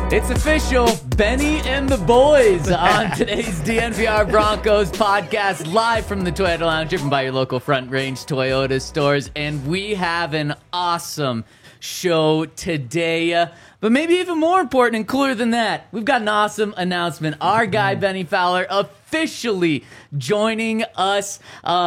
It's official, Benny and the boys on today's DNVR Broncos podcast, live from the Toyota Lounge, driven by your local Front Range Toyota stores. And we have an awesome show today. But maybe even more important and cooler than that, we've got an awesome announcement. Our guy, Benny Fowler, officially joining us.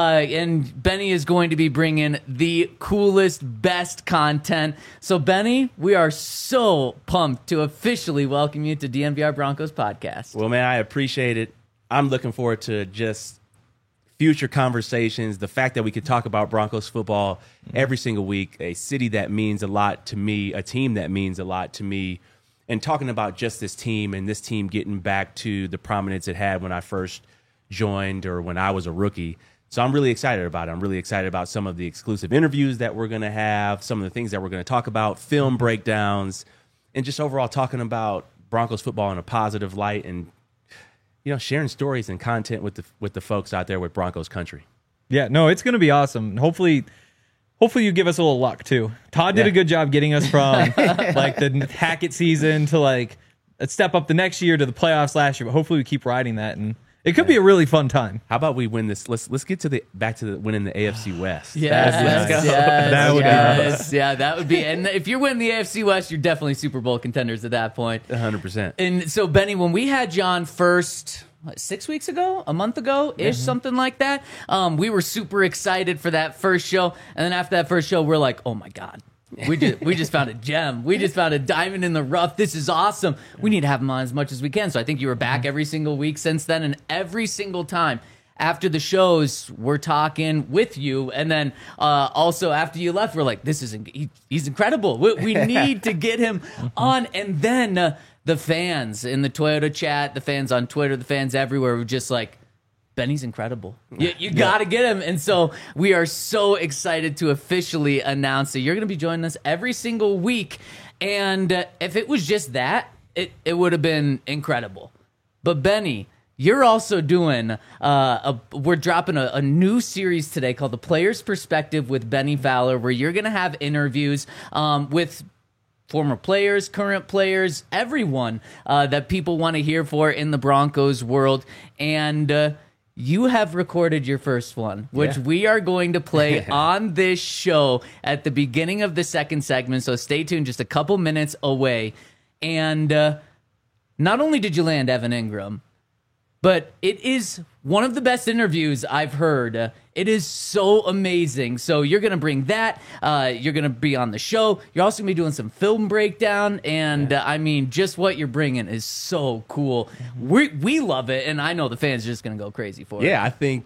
And Benny is going to be bringing the coolest, best content. So, Benny, we are so pumped to officially welcome you to DNVR Broncos podcast. Well, man, I appreciate it. I'm looking forward to just future conversations, the fact that we could talk about Broncos football every single week, a city that means a lot to me, a team that means a lot to me, and talking about just this team and this team getting back to the prominence it had when I first joined or when I was a rookie. So I'm really excited about it. I'm really excited about some of the exclusive interviews that we're going to have, some of the things that we're going to talk about, film breakdowns, and just overall talking about Broncos football in a positive light and sharing stories and content with the folks out there with Broncos country. Yeah, no, it's going to be awesome. Hopefully you give us a little luck too. Todd did a good job getting us from like the Hackett season to like a step up the next year to the playoffs last year. But hopefully we keep riding that, and it could be a really fun time. How about we win this? Let's get to back to winning the AFC West. Yes, That would be nice. Yeah, that would be. And if you're winning the AFC West, you're definitely Super Bowl contenders at that point. 100%. And so, Benny, when we had John first, 6 weeks ago, a month ago-ish, something like that, we were super excited for that first show. And then after that first show, we're like, oh my God. We just found a gem. We just found a diamond in the rough. This is awesome. We need to have him on as much as we can. So I think you were back every single week since then, and every single time after the shows, we're talking with you. And then also after you left, we're like, he's incredible. We need to get him on. And then the fans in the Toyota chat, the fans on Twitter, the fans everywhere were just like, Benny's incredible. You got to get him. And so we are so excited to officially announce that you're going to be joining us every single week. And if it was just that, it would have been incredible. But Benny, you're also doing, we're dropping a new series today called The Player's Perspective with Benny Fowler, where you're going to have interviews with former players, current players, everyone that people want to hear for in the Broncos world. And you have recorded your first one, which we are going to play on this show at the beginning of the second segment. So stay tuned, just a couple minutes away. And not only did you land Evan Ingram, but it is one of the best interviews I've heard. It is so amazing. So you're going to bring that. You're going to be on the show. You're also going to be doing some film breakdown. And I mean, just what you're bringing is so cool. We love it. And I know the fans are just going to go crazy for it. Yeah, I think,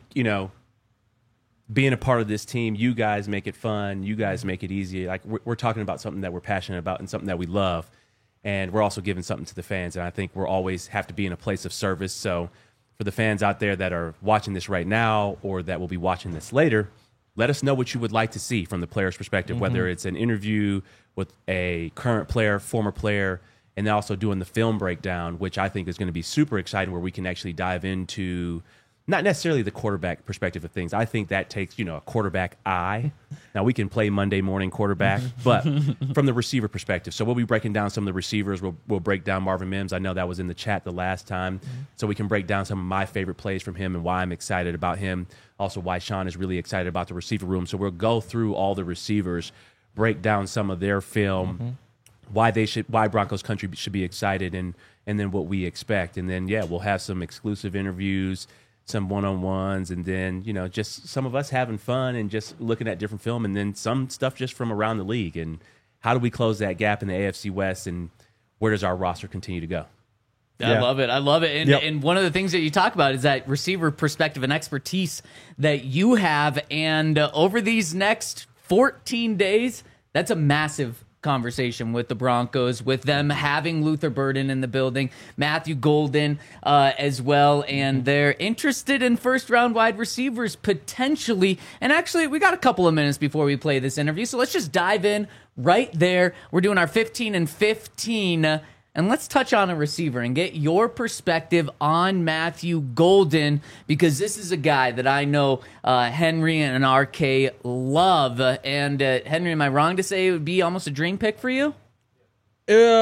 being a part of this team, you guys make it fun. You guys make it easy. Like we're talking about something that we're passionate about and something that we love. And we're also giving something to the fans. And I think we're always have to be in a place of service. So for the fans out there that are watching this right now or that will be watching this later, let us know what you would like to see from the player's perspective, whether it's an interview with a current player, former player, and then also doing the film breakdown, which I think is going to be super exciting, where we can actually dive into not necessarily the quarterback perspective of things. I think that takes, a quarterback eye. Now, we can play Monday morning quarterback, but from the receiver perspective. So we'll be breaking down some of the receivers. We'll break down Marvin Mims. I know that was in the chat the last time. So we can break down some of my favorite plays from him and why I'm excited about him. Also, why Sean is really excited about the receiver room. So we'll go through all the receivers, break down some of their film, why Broncos country should be excited, and then what we expect. And then, we'll have some exclusive interviews, some one-on-ones, and then, just some of us having fun and just looking at different film, and then some stuff just from around the league. And how do we close that gap in the AFC West, and where does our roster continue to go? I love it. And one of the things that you talk about is that receiver perspective and expertise that you have. And over these next 14 days, that's a massive conversation with the Broncos, with them having Luther Burden in the building, Matthew Golden as well, and they're interested in first-round wide receivers potentially. And actually, we got a couple of minutes before we play this interview, so let's just dive in right there. We're doing our 15 and 15. And let's touch on a receiver and get your perspective on Matthew Golden, because this is a guy that I know Henry and RK love. And Henry, am I wrong to say it would be almost a dream pick for you?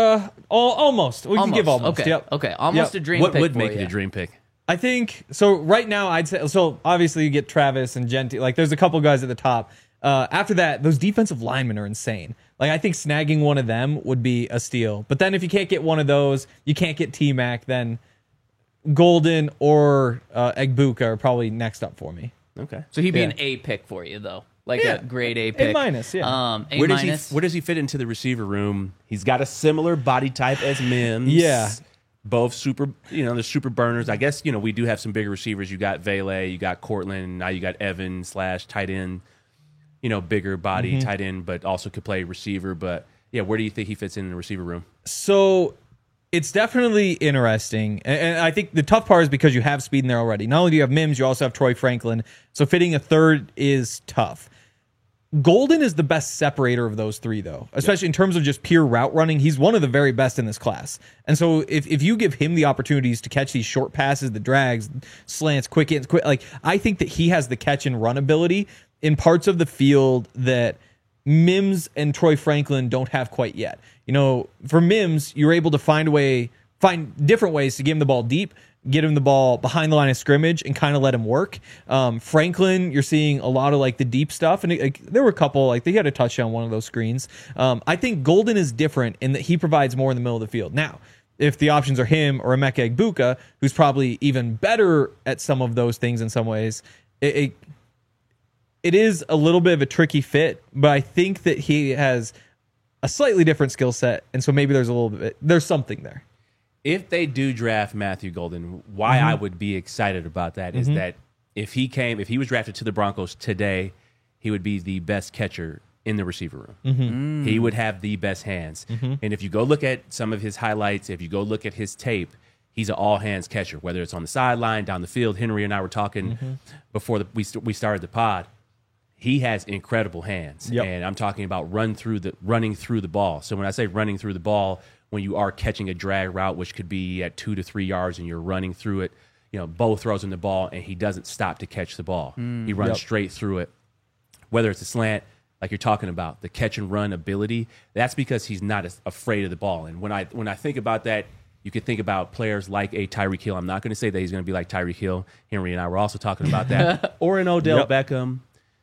Almost. We can give almost. Okay. Yep. Okay. Almost Yep. a dream What pick would for make you. it a dream pick? I think so. Right now, I'd say so. Obviously, you get Travis and Genti. Like, there's a couple guys at the top. After that, those defensive linemen are insane. Like, I think snagging one of them would be a steal. But then, if you can't get one of those, you can't get T-Mac. Then Golden or Egbuka are probably next up for me. Okay. So he'd be Yeah. an A pick for you, though. Like Yeah. a grade A pick. A minus, yeah. A Where minus. does he fit into the receiver room? He's got a similar body type as Mims. Yeah. Both super, they're super burners. I guess, we do have some bigger receivers. You got Vele, you got Cortland, now you got Evan / tight end, bigger body tight end, but also could play receiver. But yeah, where do you think he fits in the receiver room? So it's definitely interesting. And I think the tough part is because you have speed in there already. Not only do you have Mims, you also have Troy Franklin. So fitting a third is tough. Golden is the best separator of those three, though, especially in terms of just pure route running. He's one of the very best in this class. And so if you give him the opportunities to catch these short passes, the drags, slants, quick, like, I think that he has the catch and run ability in parts of the field that Mims and Troy Franklin don't have quite yet. For Mims, you're able to find different ways to give him the ball deep, get him the ball behind the line of scrimmage, and kind of let him work. Franklin, you're seeing a lot of like the deep stuff, and there were a couple, like they had a touchdown on one of those screens. I think Golden is different in that he provides more in the middle of the field. Now, if the options are him or Emeka Egbuka, who's probably even better at some of those things in some ways, it is a little bit of a tricky fit, but I think that he has a slightly different skill set, and so maybe there's something there. If they do draft Matthew Golden, why I would be excited about that is that if he was drafted to the Broncos today, he would be the best catcher in the receiver room. He would have the best hands. And if you go look at some of his highlights, if you go look at his tape, he's an all-hands catcher, whether it's on the sideline, down the field. Henry and I were talking before we started the pod. He has incredible hands, and I'm talking about running through the ball. So when I say running through the ball, when you are catching a drag route, which could be at 2 to 3 yards, and you're running through it, Bo throws in the ball, and he doesn't stop to catch the ball. He runs straight through it. Whether it's a slant, like you're talking about, the catch and run ability, that's because he's not afraid of the ball. And when I think about that, you could think about players like a Tyreek Hill. I'm not going to say that he's going to be like Tyreek Hill. Henry and I were also talking about that. Or an Odell Beckham.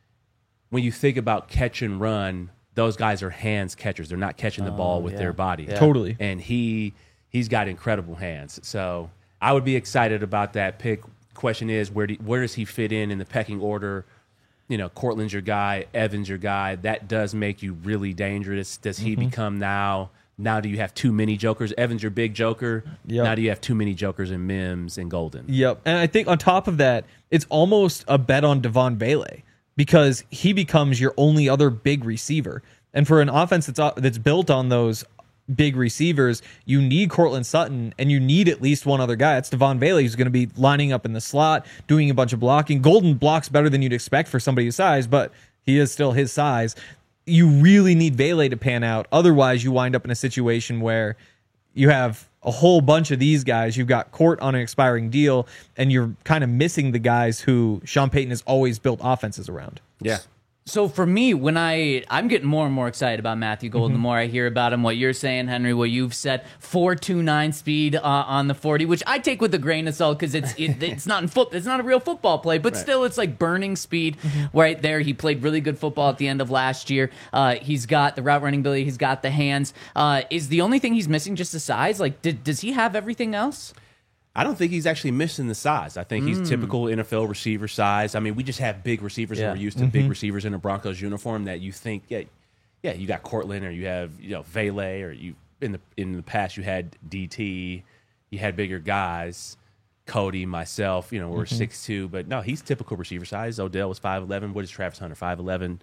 When you think about catch and run, those guys are hands catchers. They're not catching the ball with their body. Yeah. Totally. And he's got incredible hands. So I would be excited about that pick. Question is, where does he fit in the pecking order? Cortland's your guy, Evans your guy. That does make you really dangerous. Does he become now do you have too many jokers? Evans your big joker. Yep. Now do you have too many jokers in Mims and Golden? Yep. And I think on top of that, it's almost a bet on Devon Vele, because he becomes your only other big receiver. And for an offense that's built on those big receivers, you need Cortland Sutton, and you need at least one other guy. It's Devon Vele, who's going to be lining up in the slot, doing a bunch of blocking. Golden blocks better than you'd expect for somebody his size, but he is still his size. You really need Vele to pan out. Otherwise, you wind up in a situation where you have a whole bunch of these guys. You've got Court on an expiring deal, and you're kind of missing the guys who Sean Payton has always built offenses around. Yeah. So for me, when I'm getting more and more excited about Matthew Golden, the more I hear about him, what you're saying, Henry, what you've said, 4.29 speed on the 40, which I take with a grain of salt because it's not it's not a real football play, but still it's like burning speed right there. He played really good football at the end of last year. He's got the route running ability. He's got the hands. Is the only thing he's missing just the size? Like, does he have everything else? I don't think he's actually missing the size. I think he's typical NFL receiver size. I mean, we just have big receivers, and we're used to big receivers in a Broncos uniform that you think, you got Cortland, or you have Vele, or you in the past you had DT, you had bigger guys, Cody, myself, we're 6'2", but no, he's typical receiver size. Odell was 5'11". What is Travis Hunter? 5'11".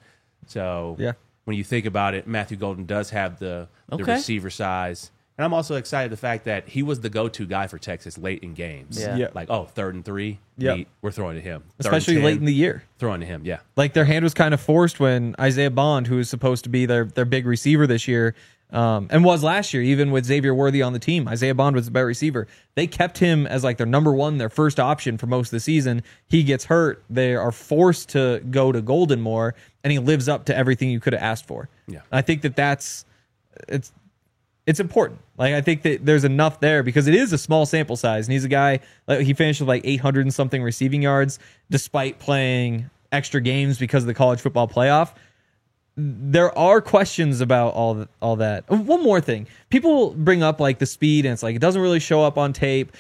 So when you think about it, Matthew Golden does have the receiver size. And I'm also excited the fact that he was the go-to guy for Texas late in games. Yeah. Like, 3rd and 3, we're throwing to him. 3rd Especially and 10, late in the year. Throwing to him, yeah. Like, their hand was kind of forced when Isaiah Bond, who was supposed to be their big receiver this year, and was last year, even with Xavier Worthy on the team. Isaiah Bond was the better receiver. They kept him as like their number one, their first option for most of the season. He gets hurt. They are forced to go to Golden more, and he lives up to everything you could have asked for. Yeah. I think it's it's important. Like, I think that there's enough there because it is a small sample size, and he's a guy, like, he finished with like 800 and something receiving yards despite playing extra games because of the college football playoff. There are questions about all that. One more thing. People bring up like the speed, and it's like it doesn't really show up on tape.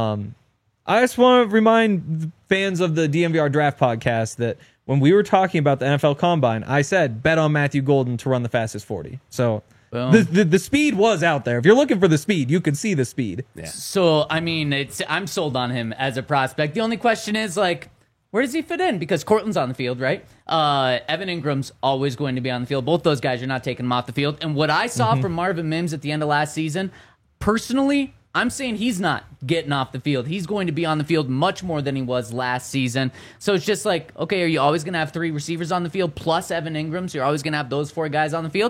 I just want to remind fans of the DNVR Draft podcast that when we were talking about the NFL Combine, I said bet on Matthew Golden to run the fastest 40. So the speed was out there. If you're looking for the speed, you could see the speed. Yeah. So I mean, I'm sold on him as a prospect. The only question is like, where does he fit in? Because Cortland's on the field, right? Evan Ingram's always going to be on the field. Both those guys, you're not taking them off the field. And what I saw from Marvin Mims at the end of last season, personally, I'm saying he's not getting off the field. He's going to be on the field much more than he was last season. So it's just like, okay, are you always going to have 3 receivers on the field plus Evan Ingram? So you're always going to have those 4 guys on the field?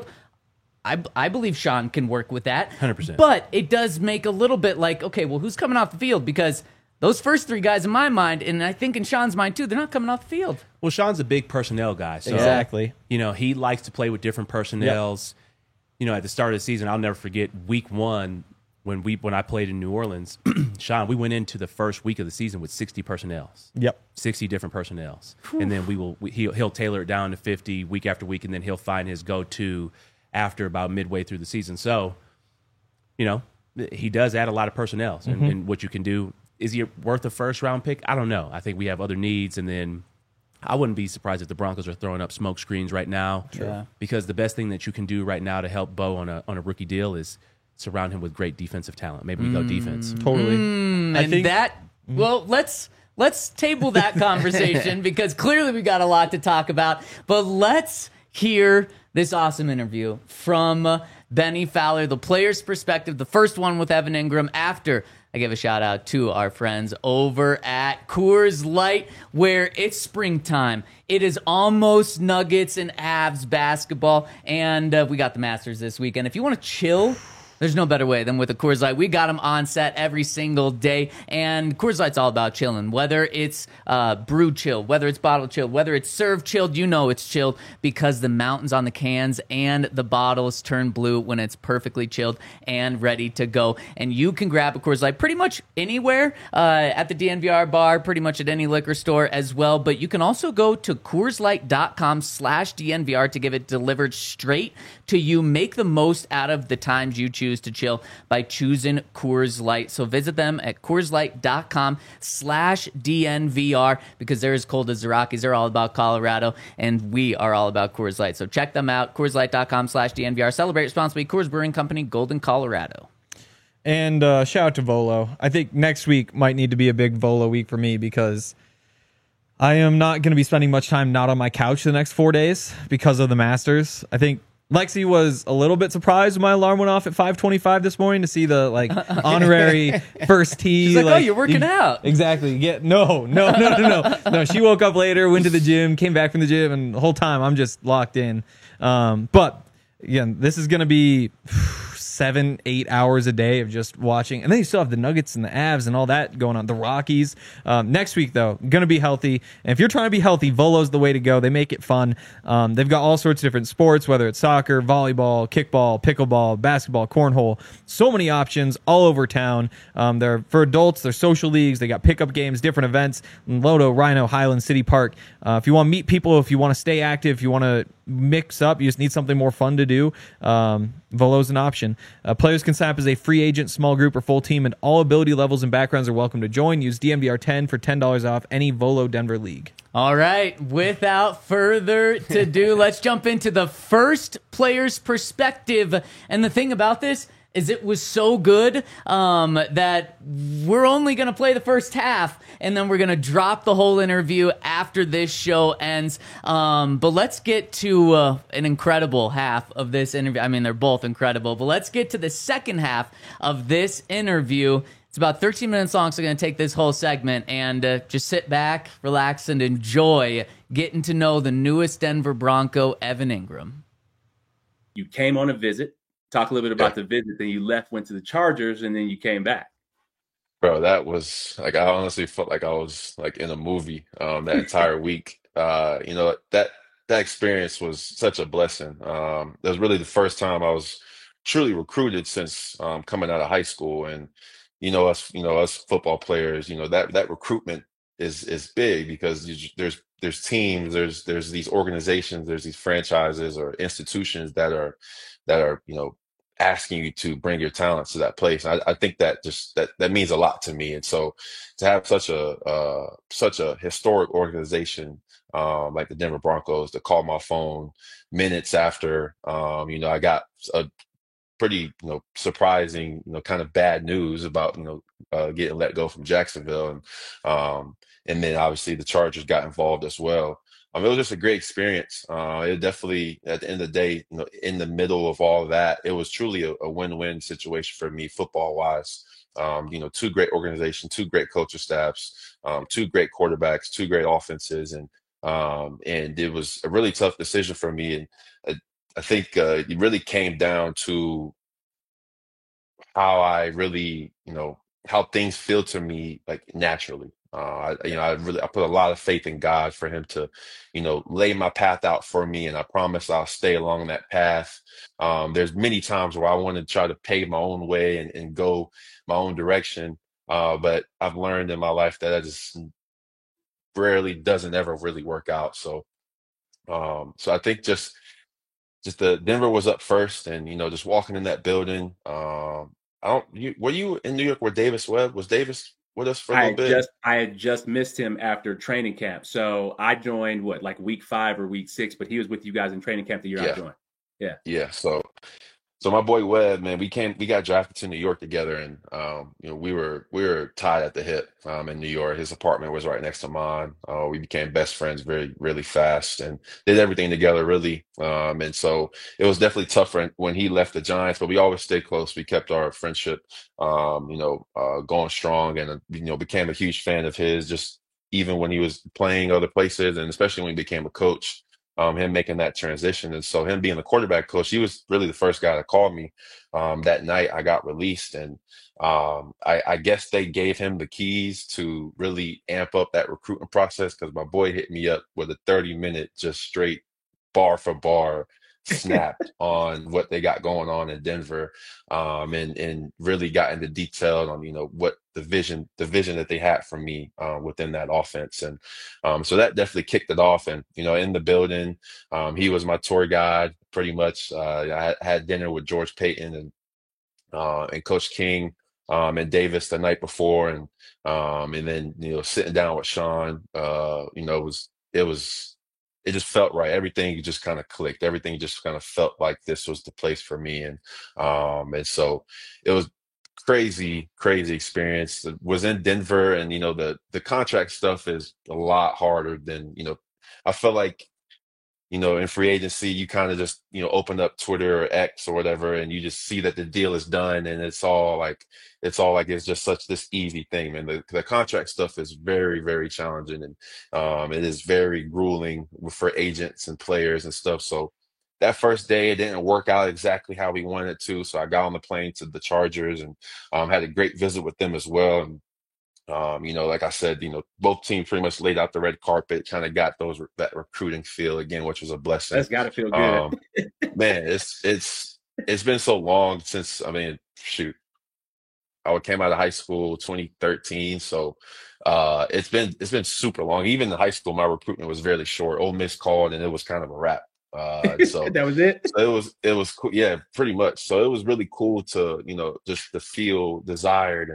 I believe Sean can work with that. 100%. But it does make a little bit like, okay, well, who's coming off the field? Because those first 3 guys in my mind, and I think in Sean's mind too, they're not coming off the field. Well, Sean's a big personnel guy. So, exactly. You know, he likes to play with different personnels. Yep. You know, at the start of the season, I'll never forget week 1 when I played in New Orleans. Sean, we went into the first week of the season with 60 personnels. Yep. 60 different personnels. Whew. And then he'll tailor it down to 50 week after week, and then he'll find his go-to after about midway through the season. So, you know, he does add a lot of personnel. And what you can do, is he worth a first-round pick? I don't know. I think we have other needs, and then I wouldn't be surprised if the Broncos are throwing up smoke screens right now. Yeah. Because the best thing that you can do right now to help Bo on a rookie deal is surround him with great defensive talent. Maybe we go defense. Totally. I think well, let's table that conversation because clearly we got a lot to talk about. But let's hear this awesome interview from Bennie Fowler, the player's perspective, the first one with Evan Ingram after I give a shout out to our friends over at Coors Light, where it's springtime. It is almost Nuggets and Avs basketball, and we got the Masters this weekend. If you want to chill, there's no better way than with a Coors Light. We got them on set every single day, and Coors Light's all about chilling. Whether it's brewed chilled, whether it's bottled chilled, whether it's served chilled, you know it's chilled because the mountains on the cans and the bottles turn blue when it's perfectly chilled and ready to go. And you can grab a Coors Light pretty much anywhere at the DNVR bar, pretty much at any liquor store as well. But you can also go to CoorsLight.com/DNVR to get it delivered straight to you. Make the most out of the times you choose to chill by choosing Coors Light. So visit them at CoorsLight.com/DNVR because they're as cold as the Rockies. They're all about Colorado, and we are all about Coors Light. So check them out, CoorsLight.com/DNVR. Celebrate responsibly. Coors Brewing Company, Golden, Colorado. And shout out to Volo. I think next week might need to be a big Volo week for me because I am not going to be spending much time not on my couch the next 4 days because of the Masters. I think Lexi was a little bit surprised when my alarm went off at 5:25 this morning to see the honorary first tee. She's like, oh, you're working out. Exactly. Yeah, no. She woke up later, went to the gym, came back from the gym, and the whole time I'm just locked in. But again, this is going to be 7-8 hours a day of just watching. And then you still have the Nuggets and the Avs and all that going on. The Rockies. Next week, though, going to be healthy. And if you're trying to be healthy, Volo's the way to go. They make it fun. They've got all sorts of different sports, whether it's soccer, volleyball, kickball, pickleball, basketball, cornhole. So many options all over town. They're for adults. They're social leagues. They got pickup games, different events. Lodo, Rhino, Highland, City Park. If you want to meet people, if you want to stay active, if you want to mix up, you just need something more fun to do, Volo's an option. Players can sign up as a free agent, small group, or full team, and all ability levels and backgrounds are welcome to join. Use DNVR10 for $10 off any Volo Denver league. All right, without further ado, let's jump into the first player's perspective. And the thing about this is it was so good that we're only going to play the first half, and then we're going to drop the whole interview after this show ends. But let's get to an incredible half of this interview. I mean, they're both incredible, but let's get to the second half of this interview. It's about 13 minutes long, so we're going to take this whole segment and just sit back, relax, and enjoy getting to know the newest Denver Bronco, Evan Ingram. You came on a visit. Talk a little bit about the visit. Then you left, went to the Chargers, and then you came back. Bro, that was like I honestly felt like I was like in a movie that entire week. That experience was such a blessing. That was really the first time I was truly recruited since coming out of high school. And us football players, that recruitment is big because there's teams, there's these organizations, there's these franchises or institutions that are asking you to bring your talents to that place. I think that just that means a lot to me. And so to have such a historic organization like the Denver Broncos to call my phone minutes after I got a pretty surprising kind of bad news about getting let go from Jacksonville, and then obviously the Chargers got involved as well. It was just a great experience. It definitely, at the end of the day, in the middle of all of that, it was truly a win-win situation for me football wise. Two great organizations, two great coaching staffs, two great quarterbacks, two great offenses, and it was a really tough decision for me. And I think it really came down to how I really, how things feel to me like naturally. I put a lot of faith in God for him to, lay my path out for me, and I promise I'll stay along that path. There's many times where I want to try to pave my own way and go my own direction, but I've learned in my life that just rarely doesn't ever really work out. So I think just the Denver was up first, and just walking in that building. Were you in New York where Davis was Davis with us for a little bit? I had just missed him after training camp, so I joined like week 5 or week 6, but he was with you guys in training camp the year I joined. Yeah. So my boy Webb, man, we got drafted to New York together, and we were tied at the hip in New York. His apartment was right next to mine. We became best friends very, really fast, and did everything together really. And so it was definitely tough when he left the Giants, but we always stayed close. We kept our friendship, going strong, and became a huge fan of his. Just even when he was playing other places, and especially when he became a coach. Him making that transition. And so him being the quarterback coach, he was really the first guy that called me that night I got released. And I guess they gave him the keys to really amp up that recruitment process, because my boy hit me up with a 30-minute just straight bar for bar snapped on what they got going on in Denver, and really got into detail on what the vision that they had for me within that offense. And so that definitely kicked it off. And in the building, he was my tour guide pretty much. I had dinner with George Payton and Coach King and Davis the night before, and then sitting down with Sean, it just felt right. Everything just kind of clicked. Everything just kind of felt like this was the place for me. And so it was crazy experience. It was in Denver, and the contract stuff is a lot harder than I felt like in free agency, you kind of just, open up Twitter or X or whatever, and you just see that the deal is done, and it's all like it's just such this easy thing, man. The contract stuff is very, very challenging, and it is very grueling for agents and players and stuff. So that first day, it didn't work out exactly how we wanted it to. So I got on the plane to the Chargers, and had a great visit with them as well. And like I said, both teams pretty much laid out the red carpet, kind of got that recruiting feel again, which was a blessing. That's got to feel good. Man, it's been so long since, shoot, I came out of high school 2013, so it's been super long. Even in high school, my recruitment was very short. Ole Miss called, and it was kind of a wrap. So that was it. So it was cool. Yeah, pretty much. So it was really cool to just to feel desired,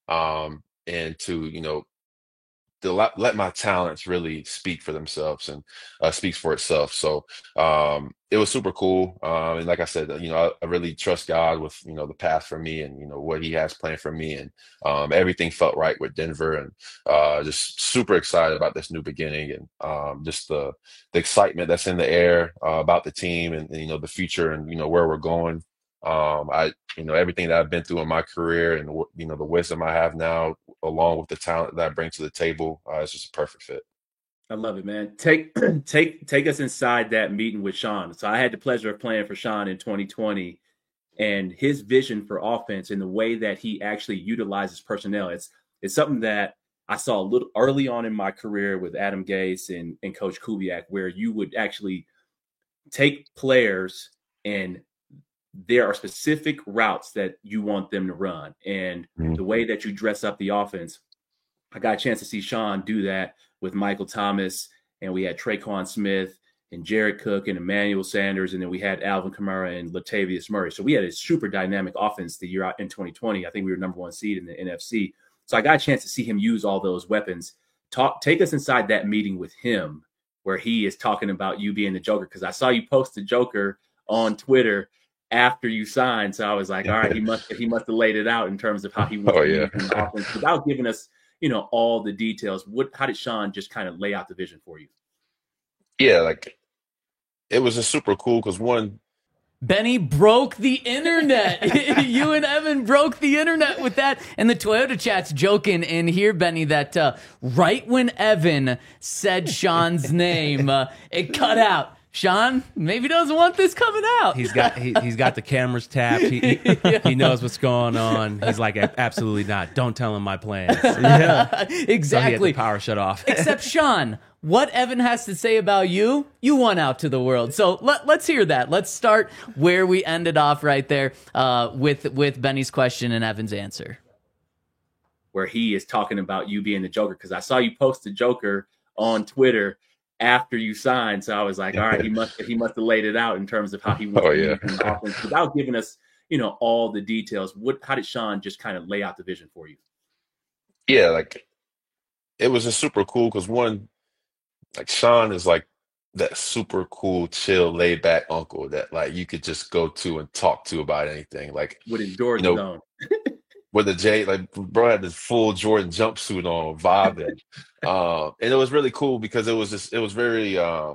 and to let my talents really speak for themselves, and speaks for itself. So it was super cool. And like I said, I really trust God with the path for me, and what He has planned for me, and everything felt right with Denver, and just super excited about this new beginning, and just the excitement that's in the air about the team, and the future, and where we're going. Everything that I've been through in my career, and the wisdom I have now, along with the talent that I bring to the table, it's just a perfect fit. I love it, man. Take us inside that meeting with Sean. So I had the pleasure of playing for Sean in 2020, and his vision for offense and the way that he actually utilizes personnel. It's something that I saw a little early on in my career with Adam Gase and Coach Kubiak, where you would actually take players and there are specific routes that you want them to run. And the way that you dress up the offense, I got a chance to see Sean do that with Michael Thomas, and we had Traquan Smith and Jared Cook and Emmanuel Sanders, and then we had Alvin Kamara and Latavius Murray. So we had a super dynamic offense the year out in 2020. I think we were #1 seed in the NFC. So I got a chance to see him use all those weapons. Take us inside that meeting with him where he is talking about you being the Joker, because I saw you post the Joker on Twitter after you signed. So I was like, all right, he must have laid it out in terms of how he wants to use the offense without giving us, all the details. How did Sean just kind of lay out the vision for you? Yeah, like it was just super cool because one, Benny broke the internet. You and Evan broke the internet with that. And the Toyota chat's joking in here, Benny, that right when Evan said Sean's name, it cut out. Sean maybe doesn't want this coming out. He's got the cameras tapped. He knows what's going on. He's like, absolutely not. Don't tell him my plans. Yeah, exactly. So he had the power shut off. Except Sean, what Evan has to say about you won out to the world. So let's hear that. Let's start where we ended off right there with Benny's question and Evan's answer. Where he is talking about you being the Joker, because I saw you post the Joker on Twitter after you signed. So I was like, all right, he must have laid it out in terms of how he wants to use the offense without giving us, all the details. How did Sean just kind of lay out the vision for you? Yeah, like it was just super cool because one, like Sean is like that super cool, chill, laid back uncle that like you could just go to and talk to about anything. Like with his Jordan on. With the J, like bro had this full Jordan jumpsuit on, vibing. And it was really cool because it was really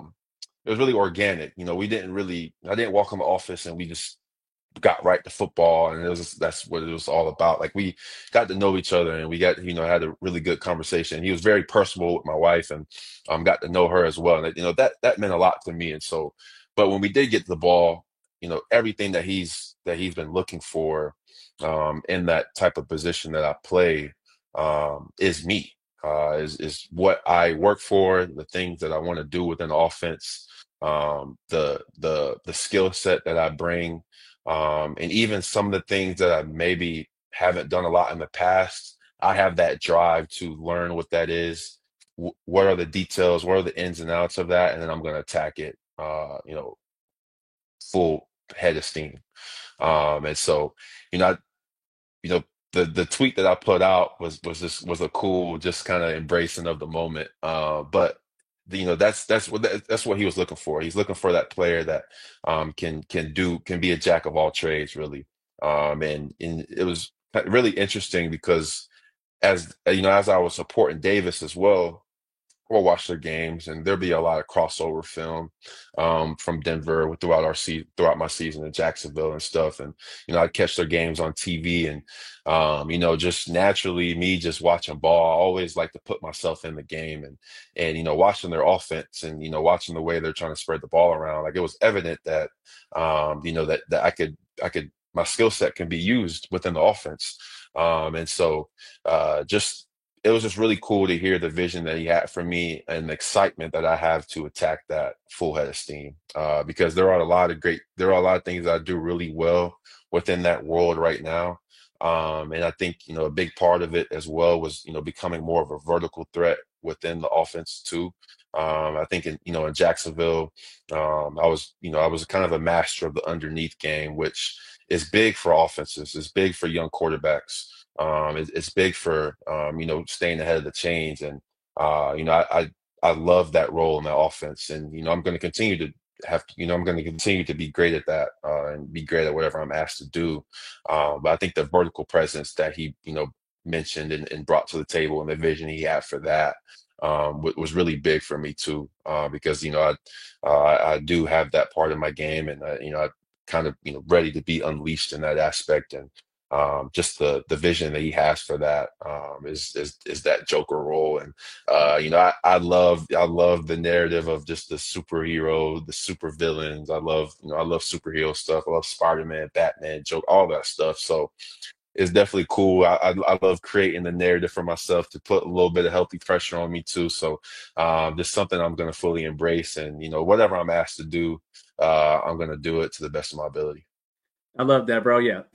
organic. I didn't walk in the office and we just got right to football, and that's what it was all about. Like we got to know each other and we got, had a really good conversation. He was very personable with my wife and got to know her as well. And that meant a lot to me. And so, but when we did get the ball, everything that he's been looking for in that type of position that I play is me, is what I work for, the things that I want to do within the offense, the skill set that I bring, and even some of the things that I maybe haven't done a lot in the past. I have that drive to learn what that is, what are the details, what are the ins and outs of that, and then I'm going to attack it, full head of steam. And so, the tweet that I put out was a cool, just kind of embracing of the moment. But that's what he was looking for. He's looking for that player that can be a jack of all trades, really. And it was really interesting because as I was supporting Davis as well, we'll watch their games, and there'll be a lot of crossover film from Denver throughout my season in Jacksonville and stuff. And I'd catch their games on TV, and just naturally me just watching ball, I always like to put myself in the game and watching their offense and watching the way they're trying to spread the ball around. Like it was evident that that I could my skill set can be used within the offense. And so it was just really cool to hear the vision that he had for me and the excitement that I have to attack that full head of steam. Because there are a lot of things that I do really well within that world right now. And I think, a big part of it as well was, becoming more of a vertical threat within the offense too. I think in Jacksonville, I was kind of a master of the underneath game, which is big for offenses. It's big for young quarterbacks. It's big for staying ahead of the chains, and I love that role in that offense, and I'm going to continue to be great at that and be great at whatever I'm asked to do. But I think the vertical presence that he mentioned and brought to the table and the vision he had for that was really big for me too, because I do have that part of my game, and I kind of ready to be unleashed in that aspect. And just the vision that he has for that is that Joker role. And I love the narrative of just the superhero, the super villains. I love superhero stuff. I love Spider-Man, Batman, Joker, all that stuff. So it's definitely cool. I love creating the narrative for myself to put a little bit of healthy pressure on me too. So just something I'm going to fully embrace, and whatever I'm asked to do, I'm going to do it to the best of my ability. I love that, bro. Yeah.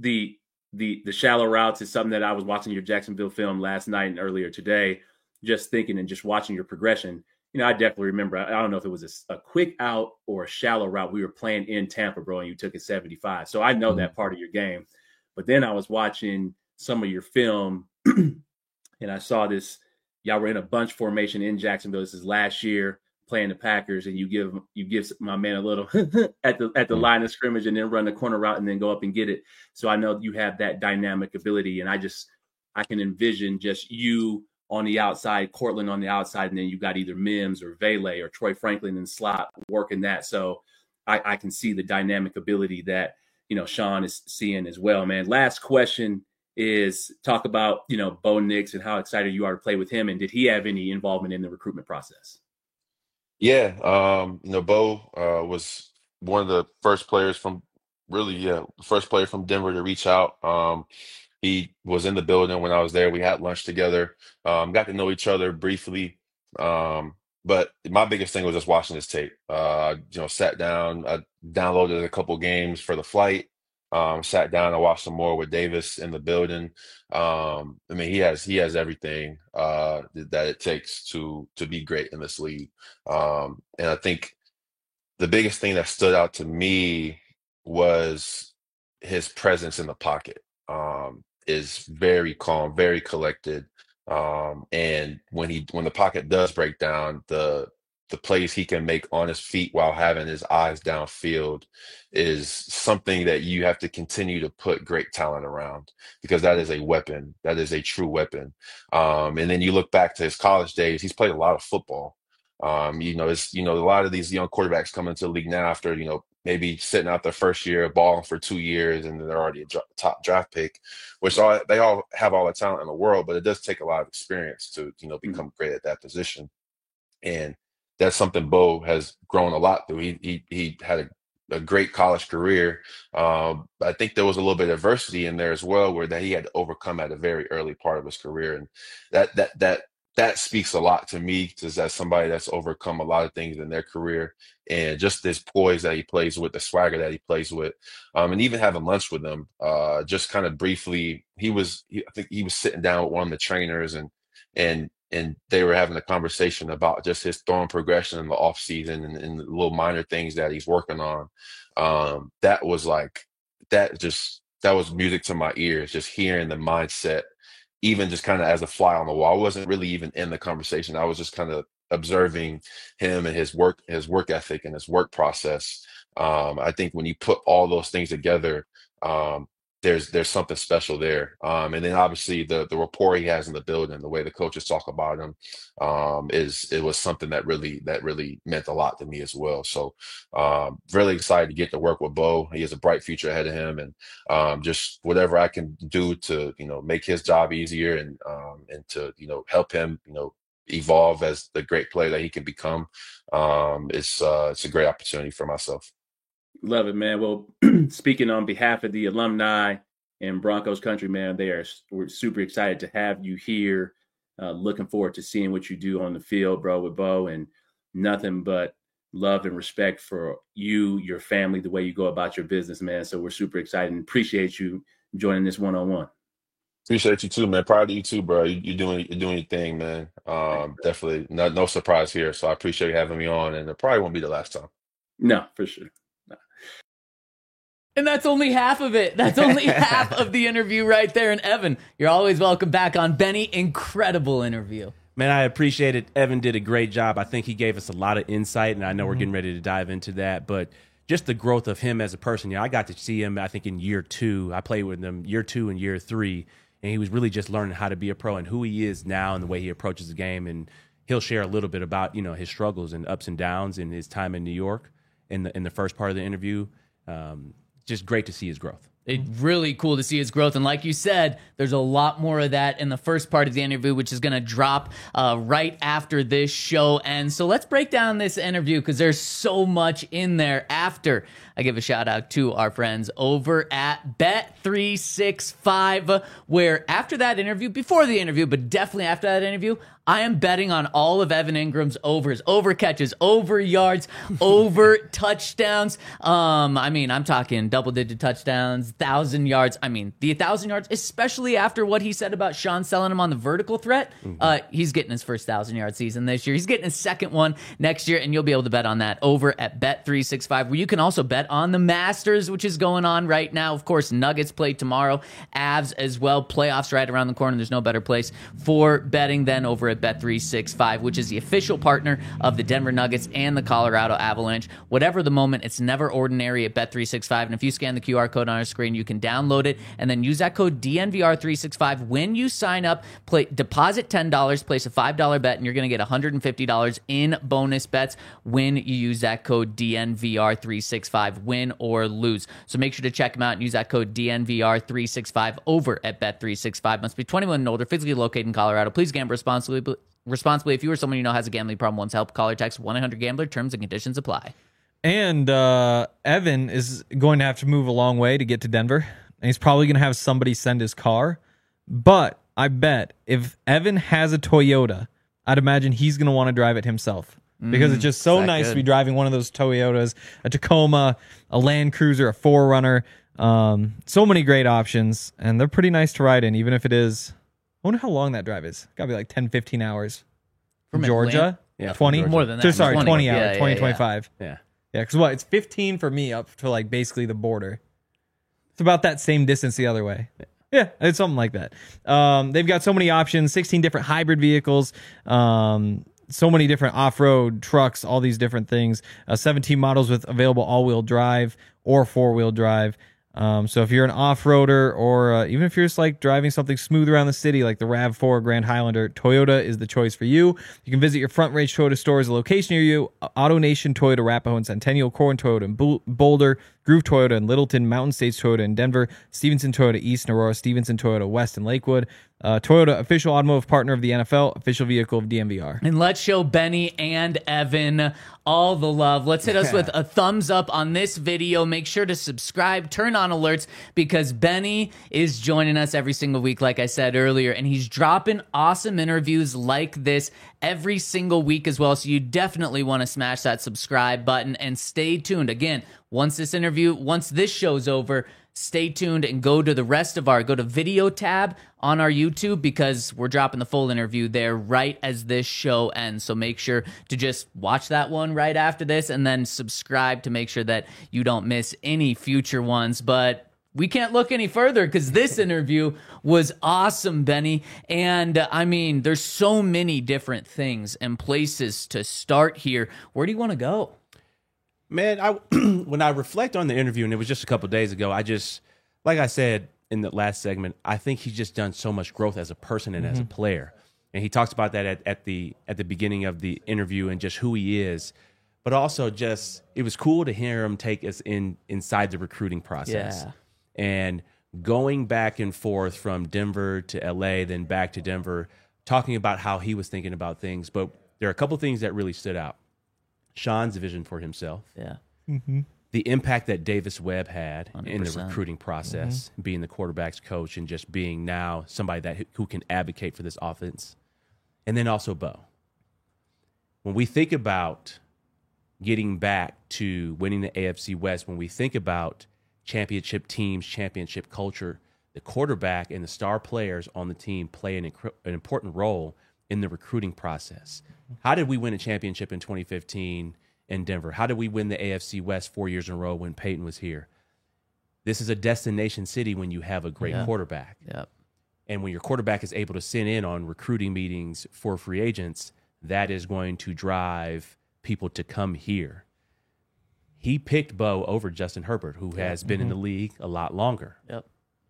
The shallow routes is something that I was watching your Jacksonville film last night and earlier today, just thinking and just watching your progression. I definitely remember, I don't know if it was a quick out or a shallow route. We were playing in Tampa, bro, and you took it 75. So I know that part of your game. But then I was watching some of your film and I saw this. Y'all were in a bunch formation in Jacksonville. This is last year playing the Packers, and you give my man a little at the line of scrimmage and then run the corner route and then go up and get it. So I know you have that dynamic ability, and I can envision just you on the outside, Cortland on the outside, and then you got either Mims or Vele or Troy Franklin in the slot working that. So I can see the dynamic ability that Sean is seeing as well, man. Last question is talk about Bo Nix and how excited you are to play with him, and did he have any involvement in the recruitment process? Yeah, Bo was one of the first players from first player from Denver to reach out. He was in the building when I was there. We had lunch together, got to know each other briefly. But my biggest thing was just watching his tape. Sat down, I downloaded a couple games for the flight. Sat down and watched some more with Davis in the building. He has everything that it takes to be great in this league. And I think the biggest thing that stood out to me was his presence in the pocket. Is very calm, very collected. And when the pocket does break down, the plays he can make on his feet while having his eyes downfield is something that you have to continue to put great talent around, because that is a weapon. That is a true weapon. And then you look back to his college days, he's played a lot of football. It's a lot of these young quarterbacks come into the league now after, maybe sitting out their first year, balling for 2 years, and then they're already a top draft pick, which they all have all the talent in the world, but it does take a lot of experience to, become great at that position. And that's something Bo has grown a lot through. He had a great college career. I think there was a little bit of adversity in there as well, where that he had to overcome at a very early part of his career. And that speaks a lot to me, because as somebody that's overcome a lot of things in their career, and just this poise that he plays with, the swagger that he plays with, and even having lunch with him, just kind of briefly, I think he was sitting down with one of the trainers, and they were having a conversation about just his throwing progression in the off season and the little minor things that he's working on. That was music to my ears, just hearing the mindset, even just kind of as a fly on the wall. I wasn't really even in the conversation. I was just kind of observing him and his work ethic and his work process. I think when you put all those things together, there's something special there. And then obviously the rapport he has in the building, the way the coaches talk about him, it was something that really meant a lot to me as well. So really excited to get to work with Bo. He has a bright future ahead of him, and just whatever I can do to make his job easier, and to help him evolve as the great player that he can become. It's a great opportunity for myself. Love it, man. Well, speaking on behalf of the alumni and Broncos country, man, we're super excited to have you here. Looking forward to seeing what you do on the field, bro, with Bo, and nothing but love and respect for you, your family, the way you go about your business, man. So we're super excited and appreciate you joining this one-on-one. Appreciate you too, man. Proud of you too, bro. You're doing your thing, man. Definitely no surprise here. So I appreciate you having me on, and it probably won't be the last time. No, for sure. And that's only half of it. That's only half of the interview right there. And Evan, you're always welcome back on. Benny, incredible interview. Man, I appreciate it. Evan did a great job. I think he gave us a lot of insight, and I know we're getting ready to dive into that. But just the growth of him as a person, I got to see him, I think, in year 2. I played with him year 2 and year 3, and he was really just learning how to be a pro and who he is now and the way he approaches the game. And he'll share a little bit about, his struggles and ups and downs in his time in New York in the first part of the interview. Just great to see his growth. It's really cool to see his growth. And like you said, there's a lot more of that in the first part of the interview, which is going to drop right after this show ends. So let's break down this interview, because there's so much in there. After I give a shout out to our friends over at Bet365, where after that interview, before the interview, but definitely after that interview, I am betting on all of Evan Ingram's overs, over catches, over yards, over touchdowns. I mean, I'm talking double-digit touchdowns, 1,000 yards. I mean, the 1,000 yards, especially after what he said about Sean selling him on the vertical threat. He's getting his first 1,000-yard season this year. He's getting his second one next year, and you'll be able to bet on that over at Bet365, where you can also bet on the Masters, which is going on right now. Of course, Nuggets play tomorrow, Avs as well. Playoffs right around the corner. There's no better place for betting than over at Bet365, which is the official partner of the Denver Nuggets and the Colorado Avalanche. Whatever the moment, it's never ordinary at Bet365. And if you scan the QR code on our screen, you can download it and then use that code DNVR365 when you sign up. Deposit $10, place a $5 bet, and you're going to get $150 in bonus bets when you use that code DNVR365, win or lose. So make sure to check them out and use that code DNVR365 over at Bet365. Must be 21 and older, physically located in Colorado. Please gamble responsibly. If you or someone you know has a gambling problem, wants help, call or text 1-800-GAMBLER. Terms and conditions apply. And Evan is going to have to move a long way to get to Denver. And he's probably going to have somebody send his car. But I bet if Evan has a Toyota, I'd imagine he's going to want to drive it himself. Because it's just so nice to be driving one of those Toyotas, a Tacoma, a Land Cruiser, a 4Runner. So many great options. And they're pretty nice to ride in, even if it is... I wonder how long that drive is. Got to be like 10, 15 hours. From Georgia? Yeah, 20? More than that. Sorry, 20 hours. Yeah, 20, yeah. 25. Yeah. Yeah, because what? It's 15 for me up to like basically the border. It's about that same distance the other way. Yeah, it's something like that. They've got so many options, 16 different hybrid vehicles, so many different off-road trucks, all these different things. 17 models with available all-wheel drive or four-wheel drive. So if you're an off-roader or even if you're just like driving something smooth around the city like the RAV4 Grand Highlander, Toyota is the choice for you. You can visit your Front Range Toyota stores, a location near you, AutoNation Toyota, Arapahoe and Centennial, Corwin Toyota in Boulder, Groove Toyota in Littleton, Mountain States Toyota in Denver, Stevenson Toyota East in Aurora, Stevenson Toyota West in Lakewood. Toyota, official automotive partner of the NFL, official vehicle of DNVR. And let's show Benny and Evan all the love. Let's hit us with a thumbs up on this video. Make sure to subscribe, turn on alerts, because Benny is joining us every single week, like I said earlier, and he's dropping awesome interviews like this every single week as well. So you definitely want to smash that subscribe button and stay tuned. Again, once this show's over, stay tuned and go to the video tab on our YouTube, because we're dropping the full interview there right as this show ends. So make sure to just watch that one right after this and then subscribe to make sure that you don't miss any future ones. But we can't look any further because this interview was awesome, Benny. And I mean, there's so many different things and places to start here. Where do you want to go? Man, when I reflect on the interview, and it was just a couple of days ago, like I said in the last segment, I think he's just done so much growth as a person and as a player. And he talks about that at the beginning of the interview and just who he is. But also just, it was cool to hear him take us inside the recruiting process. Yeah. And going back and forth from Denver to LA, then back to Denver, talking about how he was thinking about things. But there are a couple of things that really stood out. Sean's vision for himself. Yeah. The impact that Davis Webb had 100%. in the recruiting process, being the quarterback's coach and just being now somebody who can advocate for this offense. And then also Bo. When we think about getting back to winning the AFC West, when we think about championship teams, championship culture, the quarterback and the star players on the team play an important role in the recruiting process. How did we win a championship in 2015 in Denver? How did we win the AFC West 4 years in a row when Peyton was here? This is a destination city when you have a great quarterback. Yep. And when your quarterback is able to sit in on recruiting meetings for free agents, that is going to drive people to come here. He picked Bo over Justin Herbert, who has been in the league a lot longer. Yep.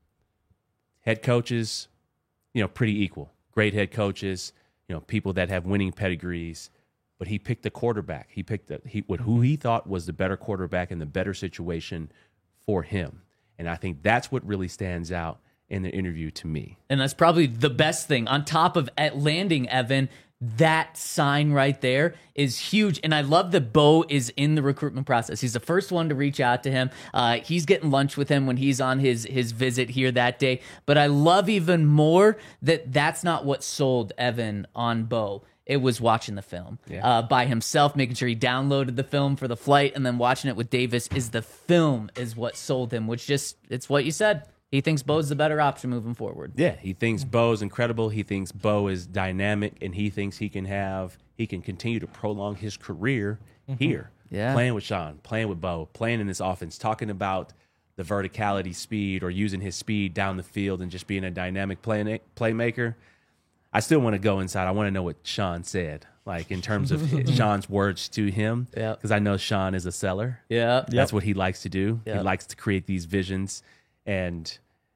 Head coaches, pretty equal. Great head coaches, people that have winning pedigrees. But he picked the quarterback. He picked who he thought was the better quarterback and the better situation for him. And I think that's what really stands out in the interview to me. And that's probably the best thing. On top of landing Evan, that sign right there is huge. And I love that Bo is in the recruitment process. He's the first one to reach out to him. He's getting lunch with him when he's on his visit here that day. But I love even more that that's not what sold Evan on Bo. It was watching the film by himself, making sure he downloaded the film for the flight, and then watching it with Davis. Is the film is what sold him, which just, it's what you said. He thinks Bo's the better option moving forward. Yeah, he thinks Bo's incredible. He thinks Bo is dynamic, and he thinks he can continue to prolong his career here. Yeah. Playing with Sean, playing with Bo, playing in this offense, talking about the verticality speed or using his speed down the field and just being a dynamic playmaker. I still want to go inside. I want to know what Sean said, like in terms of Sean's words to him, because I know Sean is a seller. Yeah. That's what he likes to do. Yep. He likes to create these visions. And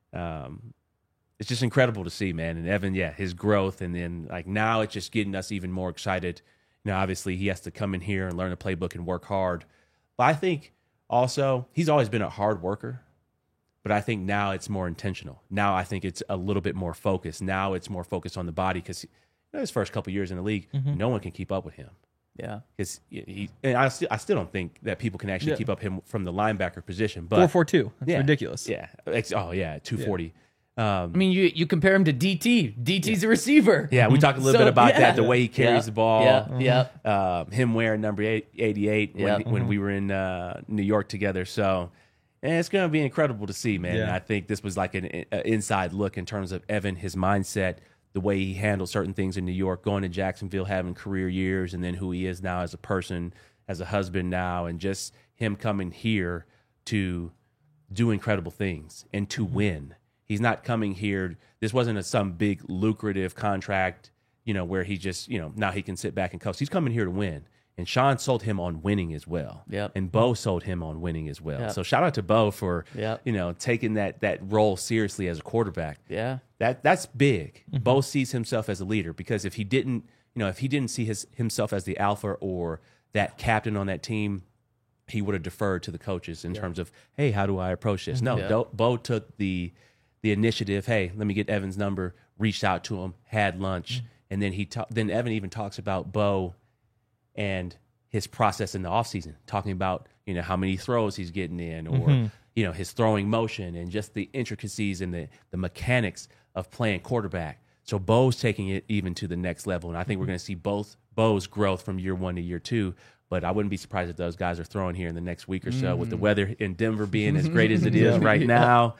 it's just incredible to see, man. And Evan, his growth. And then, like, now it's just getting us even more excited. Now, obviously, he has to come in here and learn the playbook and work hard. But I think also he's always been a hard worker. But I think now it's more intentional. Now I think it's a little bit more focused. Now it's more focused on the body because his first couple years in the league, no one can keep up with him. Yeah, because I still don't think that people can actually keep up him from the linebacker position. But 4.42, that's ridiculous. Yeah, 240. I mean, you compare him to DT. DT's a receiver. Yeah, we talked a little bit about that, the way he carries the ball. Him wearing number 88 when we were in New York together. So it's going to be incredible to see, man. And I think this was like an inside look in terms of Evan, his mindset, the way he handled certain things in New York, going to Jacksonville, having career years, and then who he is now as a person, as a husband now, and just him coming here to do incredible things and to win. He's not coming here. This wasn't some big lucrative contract, where he just, now he can sit back and coast. He's coming here to win. And Sean sold him on winning as well. Yep. And Bo sold him on winning as well. So shout out to Bo for, taking that role seriously as a quarterback. Yeah. That's big. Bo sees himself as a leader, because if he didn't see himself as the alpha or that captain on that team, he would have deferred to the coaches in terms of, hey, how do I approach this? No, Bo took the initiative. Hey, let me get Evan's number, reached out to him, had lunch, and then then Evan even talks about Bo and his process in the offseason, talking about, how many throws he's getting in, or, his throwing motion and just the intricacies and the mechanics of playing quarterback. So Bo's taking it even to the next level. And I think we're going to see both Bo's growth from year 1 to year 2. But I wouldn't be surprised if those guys are throwing here in the next week or so, with the weather in Denver being as great as it is right now.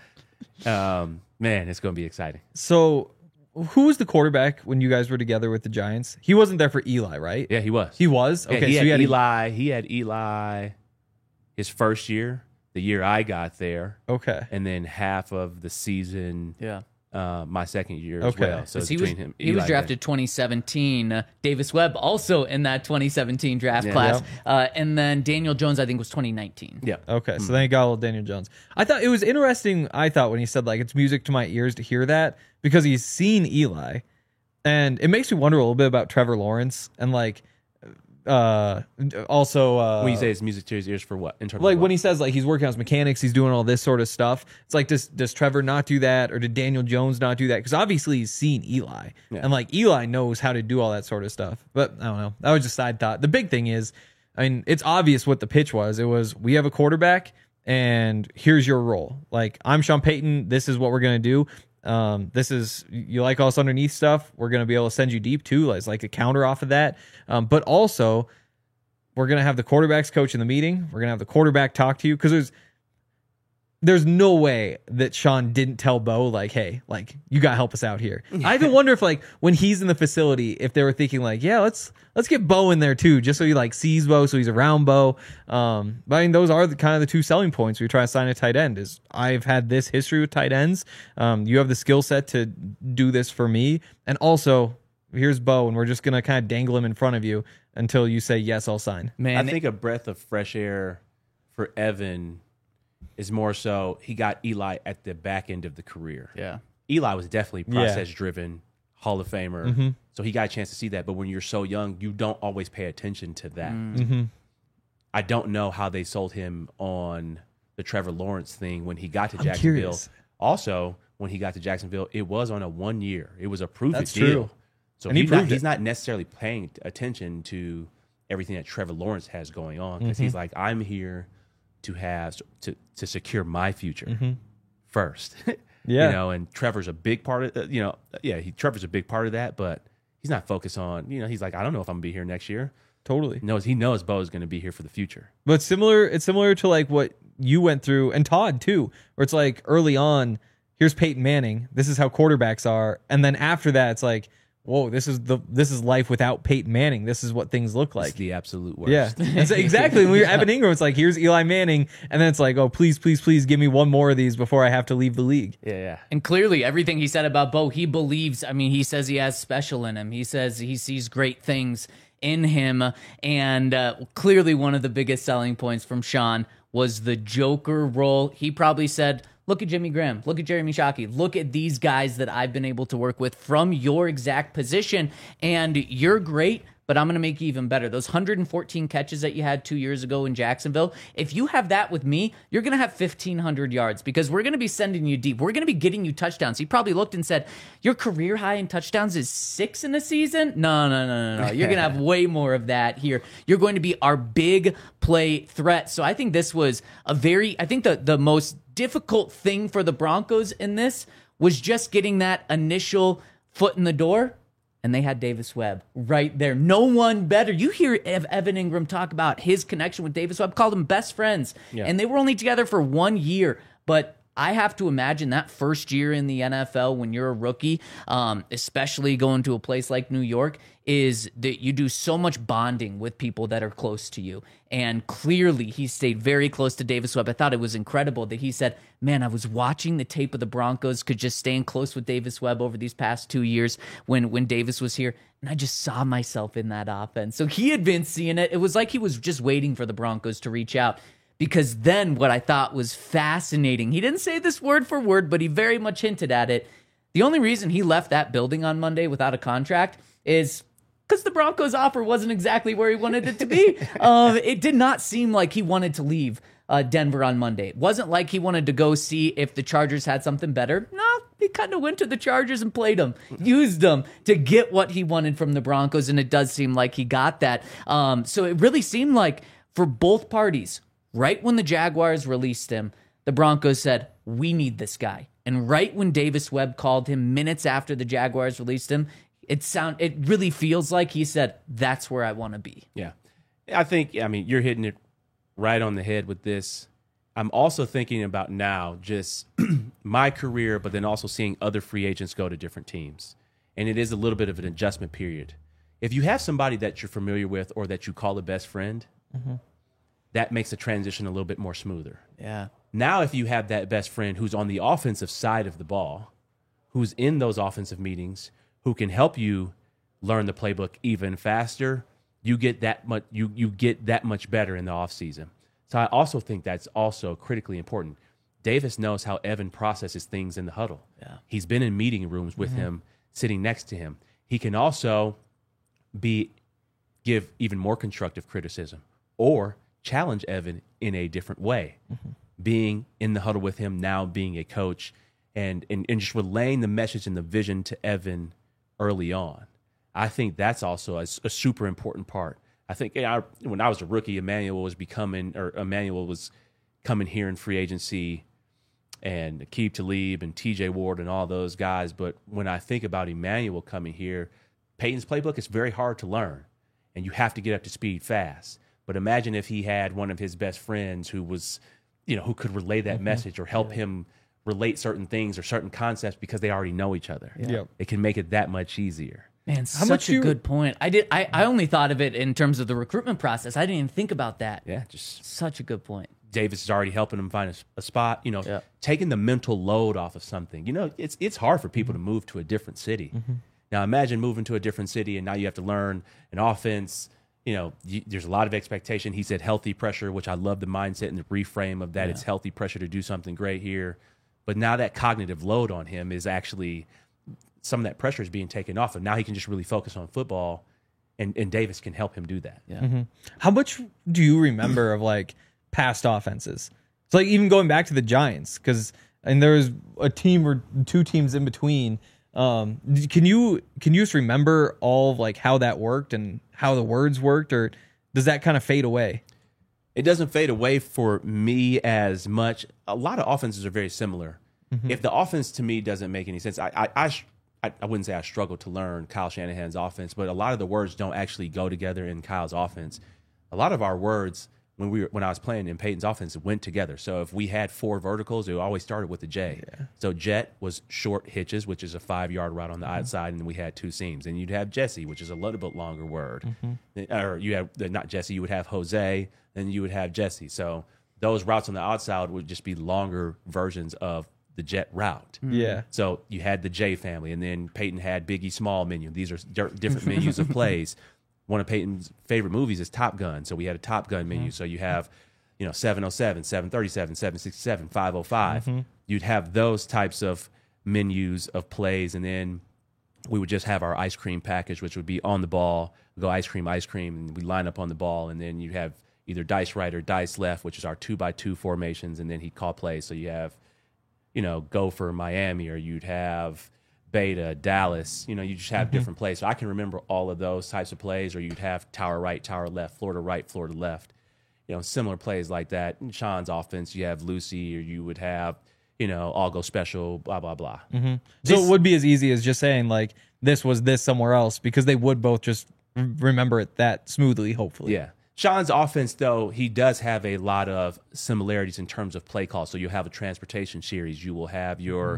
Man, it's going to be exciting. So who was the quarterback when you guys were together with the Giants? He wasn't there for Eli, right? Yeah, he was. He was? Yeah, okay, he so had Eli. He had Eli his first year, the year I got there. Okay. And then half of the season. Yeah. My second year as well. So it's between him. He was drafted 2017. Davis Webb also in that 2017 draft class. And then Daniel Jones, I think, was 2019. Yeah. Okay, so then he got a little Daniel Jones. I thought it was interesting, when he said, like, it's music to my ears to hear that, because he's seen Eli. And it makes me wonder a little bit about Trevor Lawrence and, like, also when you say it's music to his ears for what? In terms like of when he says, like, he's working on his mechanics, he's doing all this sort of stuff. It's like, does Trevor not do that, or did Daniel Jones not do that? Because obviously he's seen Eli, and like Eli knows how to do all that sort of stuff. But I don't know. That was just a side thought. The big thing is, I mean, it's obvious what the pitch was. It was, we have a quarterback, and here's your role. Like, I'm Sean Payton. This is what we're gonna do. This is, you like all this underneath stuff, we're going to be able to send you deep too. It's like a counter off of that. But also we're going to have the quarterback's coach in the meeting. We're going to have the quarterback talk to you. Cause there's no way that Sean didn't tell Bo, like, hey, like, you got to help us out here. I even wonder if, like, when he's in the facility, if they were thinking, like, yeah, let's get Bo in there too, just so he, like, sees Bo, so he's around Bo. But I mean, those are kind of the two selling points when you try to sign a tight end. Is I've had this history with tight ends. You have the skill set to do this for me, and also here's Bo, and we're just gonna kind of dangle him in front of you until you say yes, I'll sign. Man, I think a breath of fresh air for Evan is more so he got Eli at the back end of the career. Yeah. Eli was definitely process-driven, Hall of Famer, so he got a chance to see that. But when you're so young, you don't always pay attention to that. I don't know how they sold him on the Trevor Lawrence thing when he got to Jacksonville. Curious. Also, when he got to Jacksonville, it was on a 1 year. It was a prove-it That's deal. true. So And he proved he's it. not necessarily paying attention to everything that Trevor Lawrence has going on, because he's like, I'm here to secure my future first. Yeah. You know, and Trevor's a big part of Trevor's a big part of that, but he's not focused on, he's like, I don't know if I'm gonna be here next year. Totally. He knows Bo is going to be here for the future. But it's similar to like what you went through, and Todd too, where it's like early on, here's Peyton Manning, this is how quarterbacks are, and then after that, it's like, whoa, this is life without Peyton Manning. This is what things look like. It's the absolute worst. Yeah, and so exactly. When we were Evan Ingram, it's like, here's Eli Manning, and then it's like, oh, please, please, please, give me one more of these before I have to leave the league. Yeah. And clearly, everything he said about Bo, he believes. I mean, he says he has special in him. He says he sees great things in him. And clearly, one of the biggest selling points from Sean was the Joker role. He probably said, look at Jimmy Graham, look at Jeremy Shockey, look at these guys that I've been able to work with from your exact position, and you're great, but I'm going to make you even better. Those 114 catches that you had 2 years ago in Jacksonville, if you have that with me, you're going to have 1,500 yards, because we're going to be sending you deep. We're going to be getting you touchdowns. He probably looked and said, your career high in touchdowns is 6 in a season? No. You're going to have way more of that here. You're going to be our big play threat. So I think this was the most difficult thing for the Broncos in this was just getting that initial foot in the door. And they had Davis Webb right there. No one better. You hear Evan Ingram talk about his connection with Davis Webb, called them best friends. Yeah. And they were only together for 1 year. But I have to imagine that first year in the NFL when you're a rookie, especially going to a place like New York, is that you do so much bonding with people that are close to you. And clearly he stayed very close to Davis Webb. I thought it was incredible that he said, man, I was watching the tape of the Broncos, could just staying close with Davis Webb over these past 2 years when Davis was here. And I just saw myself in that offense. So he had been seeing it. It was like he was just waiting for the Broncos to reach out. Because then what I thought was fascinating, he didn't say this word for word, but he very much hinted at it. The only reason he left that building on Monday without a contract is because the Broncos' offer wasn't exactly where he wanted it to be. It did not seem like he wanted to leave Denver on Monday. It wasn't like he wanted to go see if the Chargers had something better. No, he kind of went to the Chargers and played them, used them to get what he wanted from the Broncos, and it does seem like he got that. So it really seemed like for both parties, right when the Jaguars released him, the Broncos said, we need this guy. And right when Davis Webb called him minutes after the Jaguars released him, it really feels like he said, that's where I want to be. Yeah. I think, you're hitting it right on the head with this. I'm also thinking about now just my career, but then also seeing other free agents go to different teams. And it is a little bit of an adjustment period. If you have somebody that you're familiar with or that you call a best friend, that makes the transition a little bit more smoother. Yeah. Now, if you have that best friend who's on the offensive side of the ball, who's in those offensive meetings, who can help you learn the playbook even faster, you get that much. You get that much better in the offseason. So I also think that's also critically important. Davis knows how Evan processes things in the huddle. Yeah. He's been in meeting rooms with him, sitting next to him. He can also give even more constructive criticism or challenge Evan in a different way, being in the huddle with him now, being a coach, and just relaying the message and the vision to Evan early on. I think that's also a super important part. I think when I was a rookie, Emmanuel was coming here in free agency, and Aqib Talib and TJ Ward and all those guys. But when I think about Emmanuel coming here, Peyton's playbook is very hard to learn, and you have to get up to speed fast. But imagine if he had one of his best friends who was, who could relay that message or help him relate certain things or certain concepts because they already know each other. Yeah. Yep. It can make it that much easier. Man, such a good point. I only thought of it in terms of the recruitment process. I didn't even think about that. Yeah, just such a good point. Davis is already helping him find a spot, taking the mental load off of something. It's hard for people to move to a different city. Now imagine moving to a different city and now you have to learn an offense. There's a lot of expectation. He said healthy pressure, which I love the mindset and the reframe of that. Yeah. It's healthy pressure to do something great here. But now that cognitive load on him is actually, some of that pressure is being taken off. And now he can just really focus on football, and Davis can help him do that. Yeah. How much do you remember of like past offenses? It's like even going back to the Giants, and there was a team or two teams in between Can you just remember all of like how that worked and how the words worked, or does that kind of fade away? It doesn't fade away for me as much. A lot of offenses are very similar. If the offense to me doesn't make any sense, I wouldn't say I struggle to learn Kyle Shanahan's offense, but a lot of the words don't actually go together in Kyle's offense. A lot of our words when I was playing in Peyton's offense went together. So if we had 4 verticals, it always started with a J. Yeah. So jet was short hitches, which is a 5-yard route on the outside, and then we had 2 seams. And you'd have Jesse, which is a little bit longer word. Or you have not Jesse, you would have Jose, then you would have Jesse. So those routes on the outside would just be longer versions of the jet route. Yeah. So you had the J family, and then Peyton had Biggie Small menu. These are different menus of plays. One of Peyton's favorite movies is Top Gun. So we had a Top Gun menu. So you have, 707, 737, 767, 505. You'd have those types of menus of plays, and then we would just have our ice cream package, which would be on the ball, go ice cream, and we line up on the ball, and then you have either dice right or dice left, which is our 2x2 formations, and then he'd call plays. So you have, go for Miami, or you'd have Beta, Dallas, you just have different plays. So I can remember all of those types of plays, or you'd have tower right, tower left, Florida right, Florida left, similar plays like that. In Sean's offense, you have Lucy, or you would have, all go special, blah, blah, blah. So it would be as easy as just saying like, this was this somewhere else, because they would both just remember it that smoothly, hopefully. Yeah. Sean's offense, though, he does have a lot of similarities in terms of play calls. So you'll have a transportation series. You will have your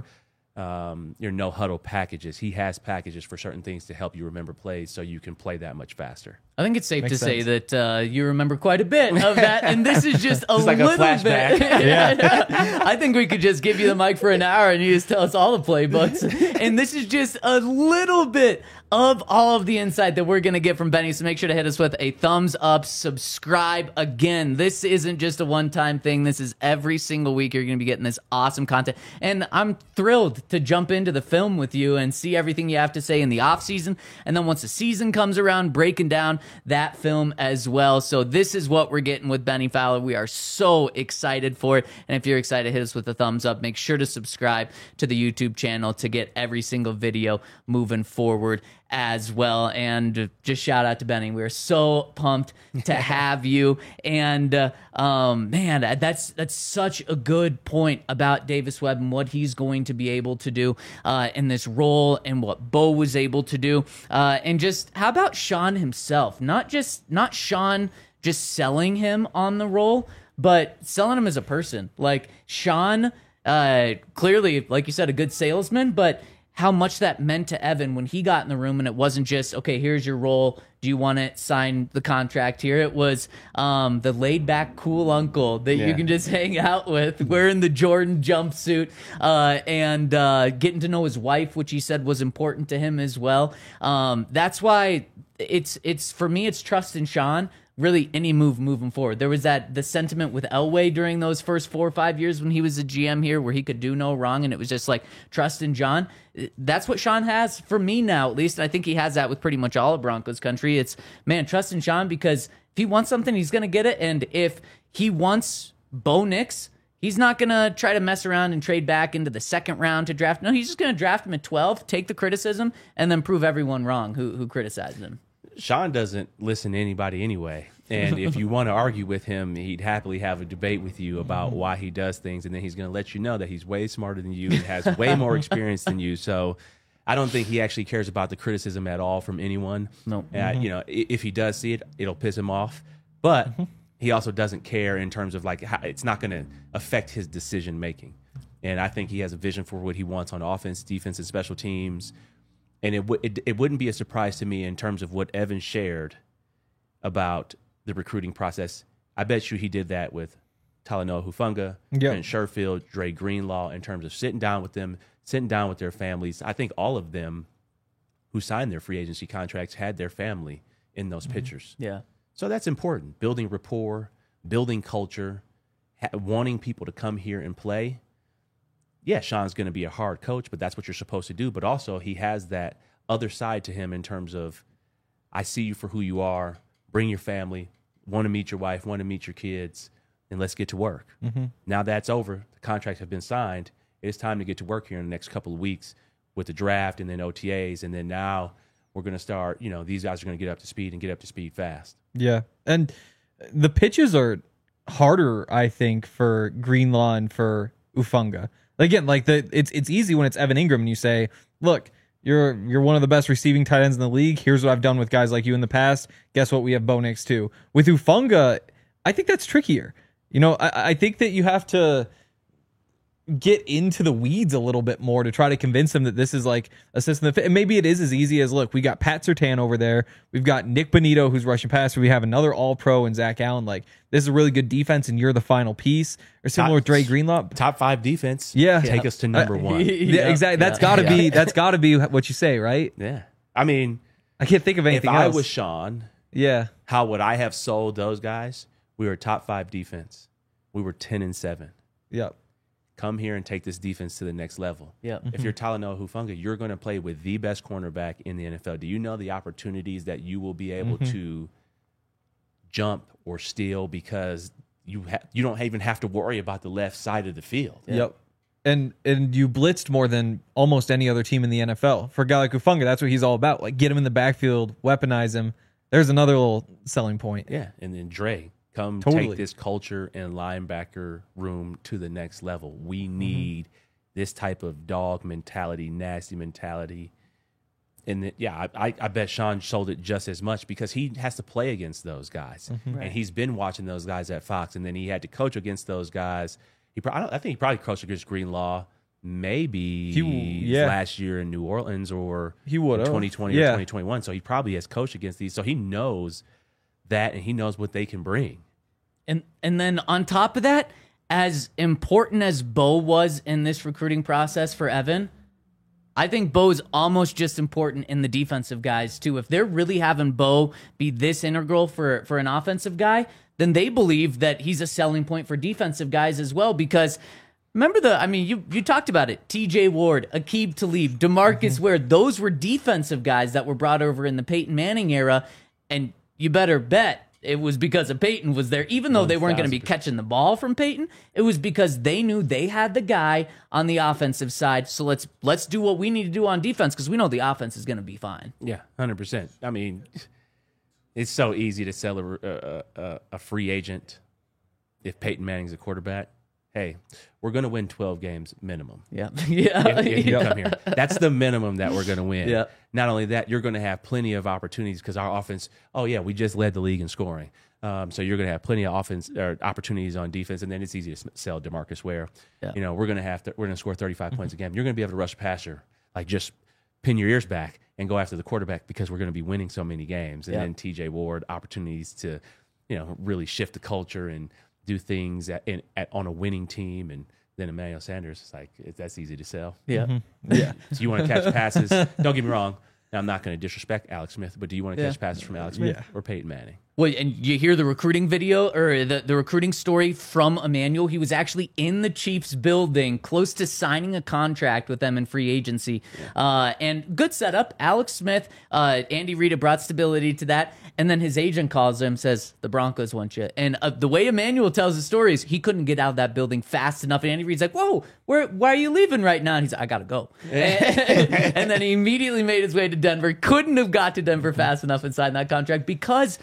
no huddle packages. He has packages for certain things to help you remember plays so you can play that much faster. I think it's safe Makes to say sense. that you remember quite a bit of that, and this is just a like a little flashback. bit. Yeah. I think we could just give you the mic for an hour and you just tell us all the playbooks. And this is just a little bit of all of the insight that we're going to get from Benny. So make sure to hit us with a thumbs up, subscribe. Again, this isn't just a one-time thing. This is every single week you're going to be getting this awesome content. And I'm thrilled to jump into the film with you and see everything you have to say in the off season. And then once the season comes around, breaking down that film as well. So this is what we're getting with Benny Fowler. We are so excited for it. And if you're excited, hit us with a thumbs up. Make sure to subscribe to the YouTube channel to get every single video moving forward as well. And just shout out to Benny. We're so pumped to have you. And man, that's such a good point about Davis Webb and what he's going to be able to do in this role, and what Bo was able to do. And just how about Sean himself? Not Sean just selling him on the role, but selling him as a person. Like Sean, clearly, like you said, a good salesman, but how much that meant to Evan when he got in the room, and it wasn't just, okay, here's your role. Do you want to sign the contract here? It was the laid-back, cool uncle that you can just hang out with, wearing the Jordan jumpsuit, and getting to know his wife, which he said was important to him as well. That's why it's for me, it's trust in Sean. Really, any move moving forward. There was the sentiment with Elway during those first 4 or 5 years when he was a GM here, where he could do no wrong, and it was just like trust in John. That's what Sean has for me now, at least. I think he has that with pretty much all of Broncos country. It's, man, trust in Sean, because if he wants something, he's going to get it. And if he wants Bo Nix, he's not going to try to mess around and trade back into the second round to draft. No, he's just going to draft him at 12, take the criticism, and then prove everyone wrong who criticized him. Sean doesn't listen to anybody anyway. And if you want to argue with him, he'd happily have a debate with you about why he does things. And then he's going to let you know that he's way smarter than you and has way more experience than you. So I don't think he actually cares about the criticism at all from anyone. No. If he does see it, it'll piss him off. But he also doesn't care in terms of like how it's not going to affect his decision making. And I think he has a vision for what he wants on offense, defense, and special teams. And it wouldn't be a surprise to me in terms of what Evan shared about the recruiting process. I bet you he did that with Talanoa Hufanga, and Sherfield, Dre Greenlaw, in terms of sitting down with them, sitting down with their families. I think all of them who signed their free agency contracts had their family in those pictures. Yeah. So that's important. Building rapport, building culture, wanting people to come here and play. Yeah, Sean's going to be a hard coach, but that's what you're supposed to do. But also he has that other side to him in terms of, I see you for who you are, bring your family, want to meet your wife, want to meet your kids, and let's get to work. Now that's over. The contracts have been signed. It's time to get to work here in the next couple of weeks. with the draft and then OTAs, and then now we're going to start. These guys are going to get up to speed and get up to speed fast. Yeah, and the pitches are harder, I think, for Greenlaw and for Ufunga. Again, it's easy when it's Evan Ingram and you say, "Look, you're one of the best receiving tight ends in the league. Here's what I've done with guys like you in the past. Guess what? We have Bo Nix too." With Ufunga, I think that's trickier. I think that you have to get into the weeds a little bit more to try to convince him that this is like a system that fit. And maybe it is as easy as, look, we got Pat Surtain over there. We've got Nick Bonito, who's rushing passer. We have another all-pro and Zach Allen. Like, this is a really good defense, and you're the final piece. Or similar with Dre Greenlaw. Top 5 defense. Yeah. Take us to number 1. Yeah, exactly. That's gotta be what you say, right? Yeah. I mean, I can't think of anything if else. I was Sean, yeah, how would I have sold those guys? We were top 5 defense. We were 10-7. Yep. Come here and take this defense to the next level. Yeah. If you're Talanoa Hufanga, you're going to play with the best cornerback in the NFL. Do you know the opportunities that you will be able to jump or steal because you don't even have to worry about the left side of the field? Yep. And you blitzed more than almost any other team in the NFL. For a guy like Hufanga, that's what he's all about. Like, get him in the backfield, weaponize him. There's another little selling point. Yeah. And then Dre, come Totally. take this culture and linebacker room to the next level. We need this type of dog mentality, nasty mentality. And I bet Sean sold it just as much because he has to play against those guys. And he's been watching those guys at Fox, and then he had to coach against those guys. I think he probably coached against Greenlaw maybe last year in New Orleans or he would have 2020 or 2021. So he probably has coached against these. So he knows that, and he knows what they can bring. And then on top of that, as important as Bo was in this recruiting process for Evan, I think Bo's almost just important in the defensive guys too. If they're really having Bo be this integral for an offensive guy, then they believe that he's a selling point for defensive guys as well. Because remember you talked about it. TJ Ward, Aqib Talib, DeMarcus Ware, those were defensive guys that were brought over in the Peyton Manning era. And you better bet it was because of Peyton was there. Even though they weren't going to be catching the ball from Peyton, it was because they knew they had the guy on the offensive side. So let's do what we need to do on defense because we know the offense is going to be fine. Yeah, 100%. I mean, it's so easy to sell a free agent if Peyton Manning's a quarterback. Hey, we're going to win 12 games minimum. Yeah. If you come here. That's the minimum that we're going to win. Yeah. Not only that, you're going to have plenty of opportunities because our offense, we just led the league in scoring. So you're going to have plenty of offense or opportunities on defense, and then it's easy to sell DeMarcus Ware. Yeah. We're going to score 35 points a game. You're going to be able to rush passer, like just pin your ears back and go after the quarterback because we're going to be winning so many games. And then TJ Ward, opportunities to, really shift the culture and do things on a winning team, and then Emmanuel Sanders. It's like that's easy to sell. Yeah, Yeah. So you want to catch passes? Don't get me wrong. Now, I'm not going to disrespect Alex Smith, but do you want to catch passes from Alex Smith or Peyton Manning? Well, and you hear the recruiting video or the recruiting story from Emmanuel. He was actually in the Chiefs building, close to signing a contract with them in free agency. And good setup. Alex Smith, Andy Reid brought stability to that. And then his agent calls him, says, the Broncos want you. And the way Emmanuel tells the story is he couldn't get out of that building fast enough. And Andy Reid's like, whoa, why are you leaving right now? And he's like, I got to go. And then he immediately made his way to Denver. Couldn't have got to Denver fast enough and signed that contract because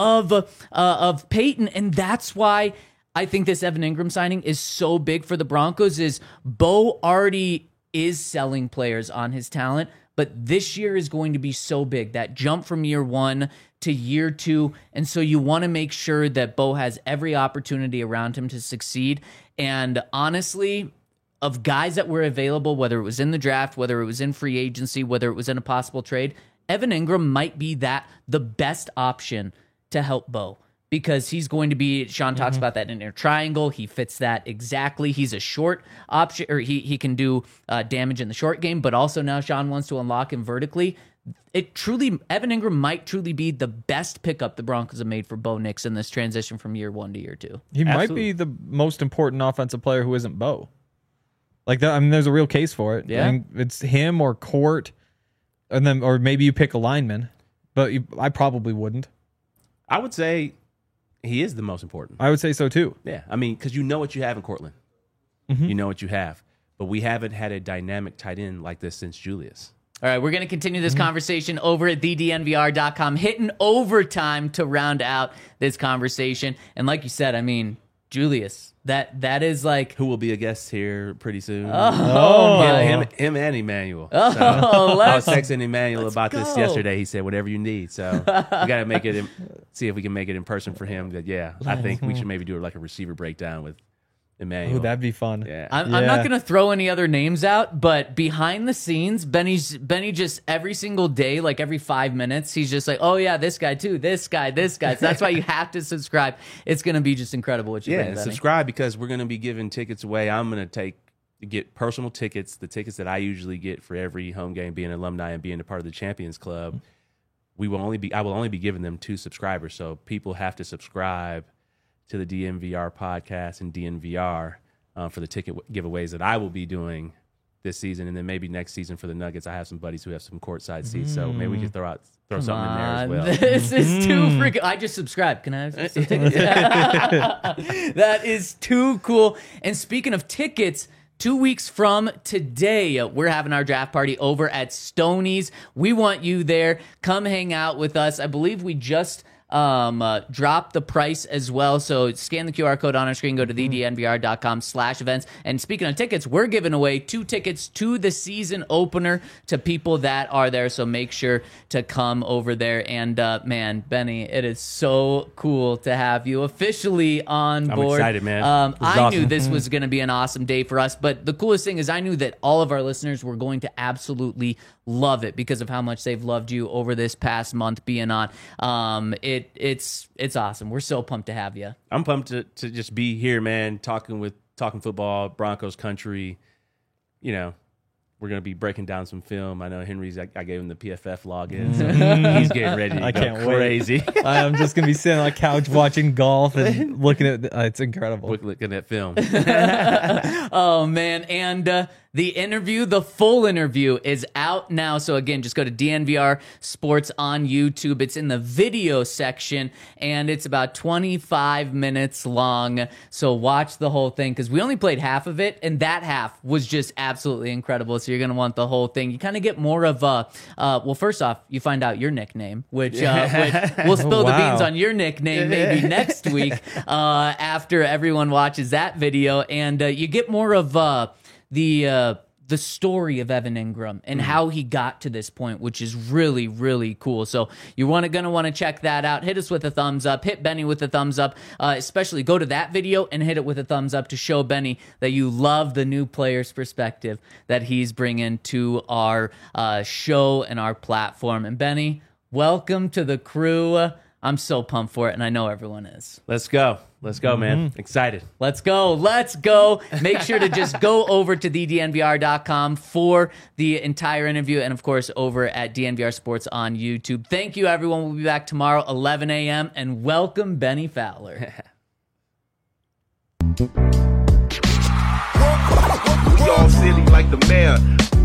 of Peyton. And that's why I think this Evan Ingram signing is so big for the Broncos is Bo already is selling players on his talent, but this year is going to be so big, that jump from year 1 to year 2. And so you want to make sure that Bo has every opportunity around him to succeed. And honestly, of guys that were available, whether it was in the draft, whether it was in free agency, whether it was in a possible trade, Evan Ingram might be the best option to help Bo. Because he's going to be, Sean talks about that inner triangle. He fits that exactly. He's a short option, or he can do damage in the short game, but also now Sean wants to unlock him vertically. Evan Ingram might truly be the best pickup the Broncos have made for Bo Nix in this transition from year 1 to year 2. He might be the most important offensive player who isn't Bo. Like that, I mean, there's a real case for it. Yeah. I mean, it's him or Court, and then, or maybe you pick a lineman, but I probably wouldn't. I would say he is the most important. I would say so too. Yeah, I mean, because you know what you have in Cortland. You know what you have. but we haven't had a dynamic tight end like this since Julius. All right, we're going to continue this conversation over at thednvr.com, hitting overtime to round out this conversation. And like you said, I mean, Julius, that is like... Who will be a guest here pretty soon. Oh, yeah, him and Emmanuel. Oh, So, I was let's texting Emmanuel about this go. yesterday. He said, whatever you need. So we got to make it, see if we can make it in person for him. But yeah, I think we should maybe do like a receiver breakdown with Emmanuel. Ooh, that'd be fun. Yeah. I'm not going to throw any other names out, but behind the scenes, Benny just every single day, like every 5 minutes, he's just like, oh yeah, this guy too, this guy. So that's why you have to subscribe. It's going to be just incredible what you bring, Yeah, Benny. subscribe because we're going to be giving tickets away. I'm going to get personal tickets, the tickets that I usually get for every home game, being an alumni and being a part of the Champions Club. I will only be giving them to subscribers. So people have to subscribe to the DNVR podcast and DNVR for the ticket giveaways that I will be doing this season, and then maybe next season for the Nuggets. I have some buddies who have some courtside seats, so maybe we could throw something in there as well. This is too freaking... I just subscribed. Can I have some tickets? That is too cool. And speaking of tickets, 2 weeks from today, we're having our draft party over at Stoney's. We want you there. Come hang out with us. I believe we just drop the price as well. So scan the QR code on our screen, go to thednvr.com/events. And speaking of tickets, we're giving away 2 tickets to the season opener to people that are there. So make sure to come over there. And man, Benny, it is so cool to have you officially on board. I'm excited, man. I knew this was going to be an awesome day for us, but the coolest thing is I knew that all of our listeners were going to absolutely love it because of how much they've loved you over this past month being on. It's awesome. We're so pumped to have you. I'm pumped to just be here, man, talking football, Broncos country. You know, we're going to be breaking down some film. I know Henry's, I gave him the PFF login, so he's getting ready to go crazy. I'm just going to be sitting on a couch watching golf and looking at it's incredible. Looking at film. Oh, man. And the full interview is out now. So again, just go to DNVR Sports on YouTube. It's in the video section, and it's about 25 minutes long. So watch the whole thing because we only played half of it, and that half was just absolutely incredible. So you're going to want the whole thing. You kind of get more of well, first off, you find out your nickname, which we'll spill the beans on your nickname maybe next week after everyone watches that video. And you get more of the story of Evan Ingram and how he got to this point, which is really, really cool. So you're going to want to check that out. Hit us with a thumbs up. Hit Benny with a thumbs up. Especially go to that video and hit it with a thumbs up to show Benny that you love the new player's perspective that he's bringing to our show and our platform. And Benny, welcome to the crew. I'm so pumped for it, and I know everyone is. Let's go, man. Excited. Let's go. Make sure to just go over to thednvr.com for the entire interview, and of course over at DNVR Sports on YouTube. Thank you, everyone. We'll be back tomorrow, 11 a.m., and welcome Benny Fowler. We all silly like the mayor.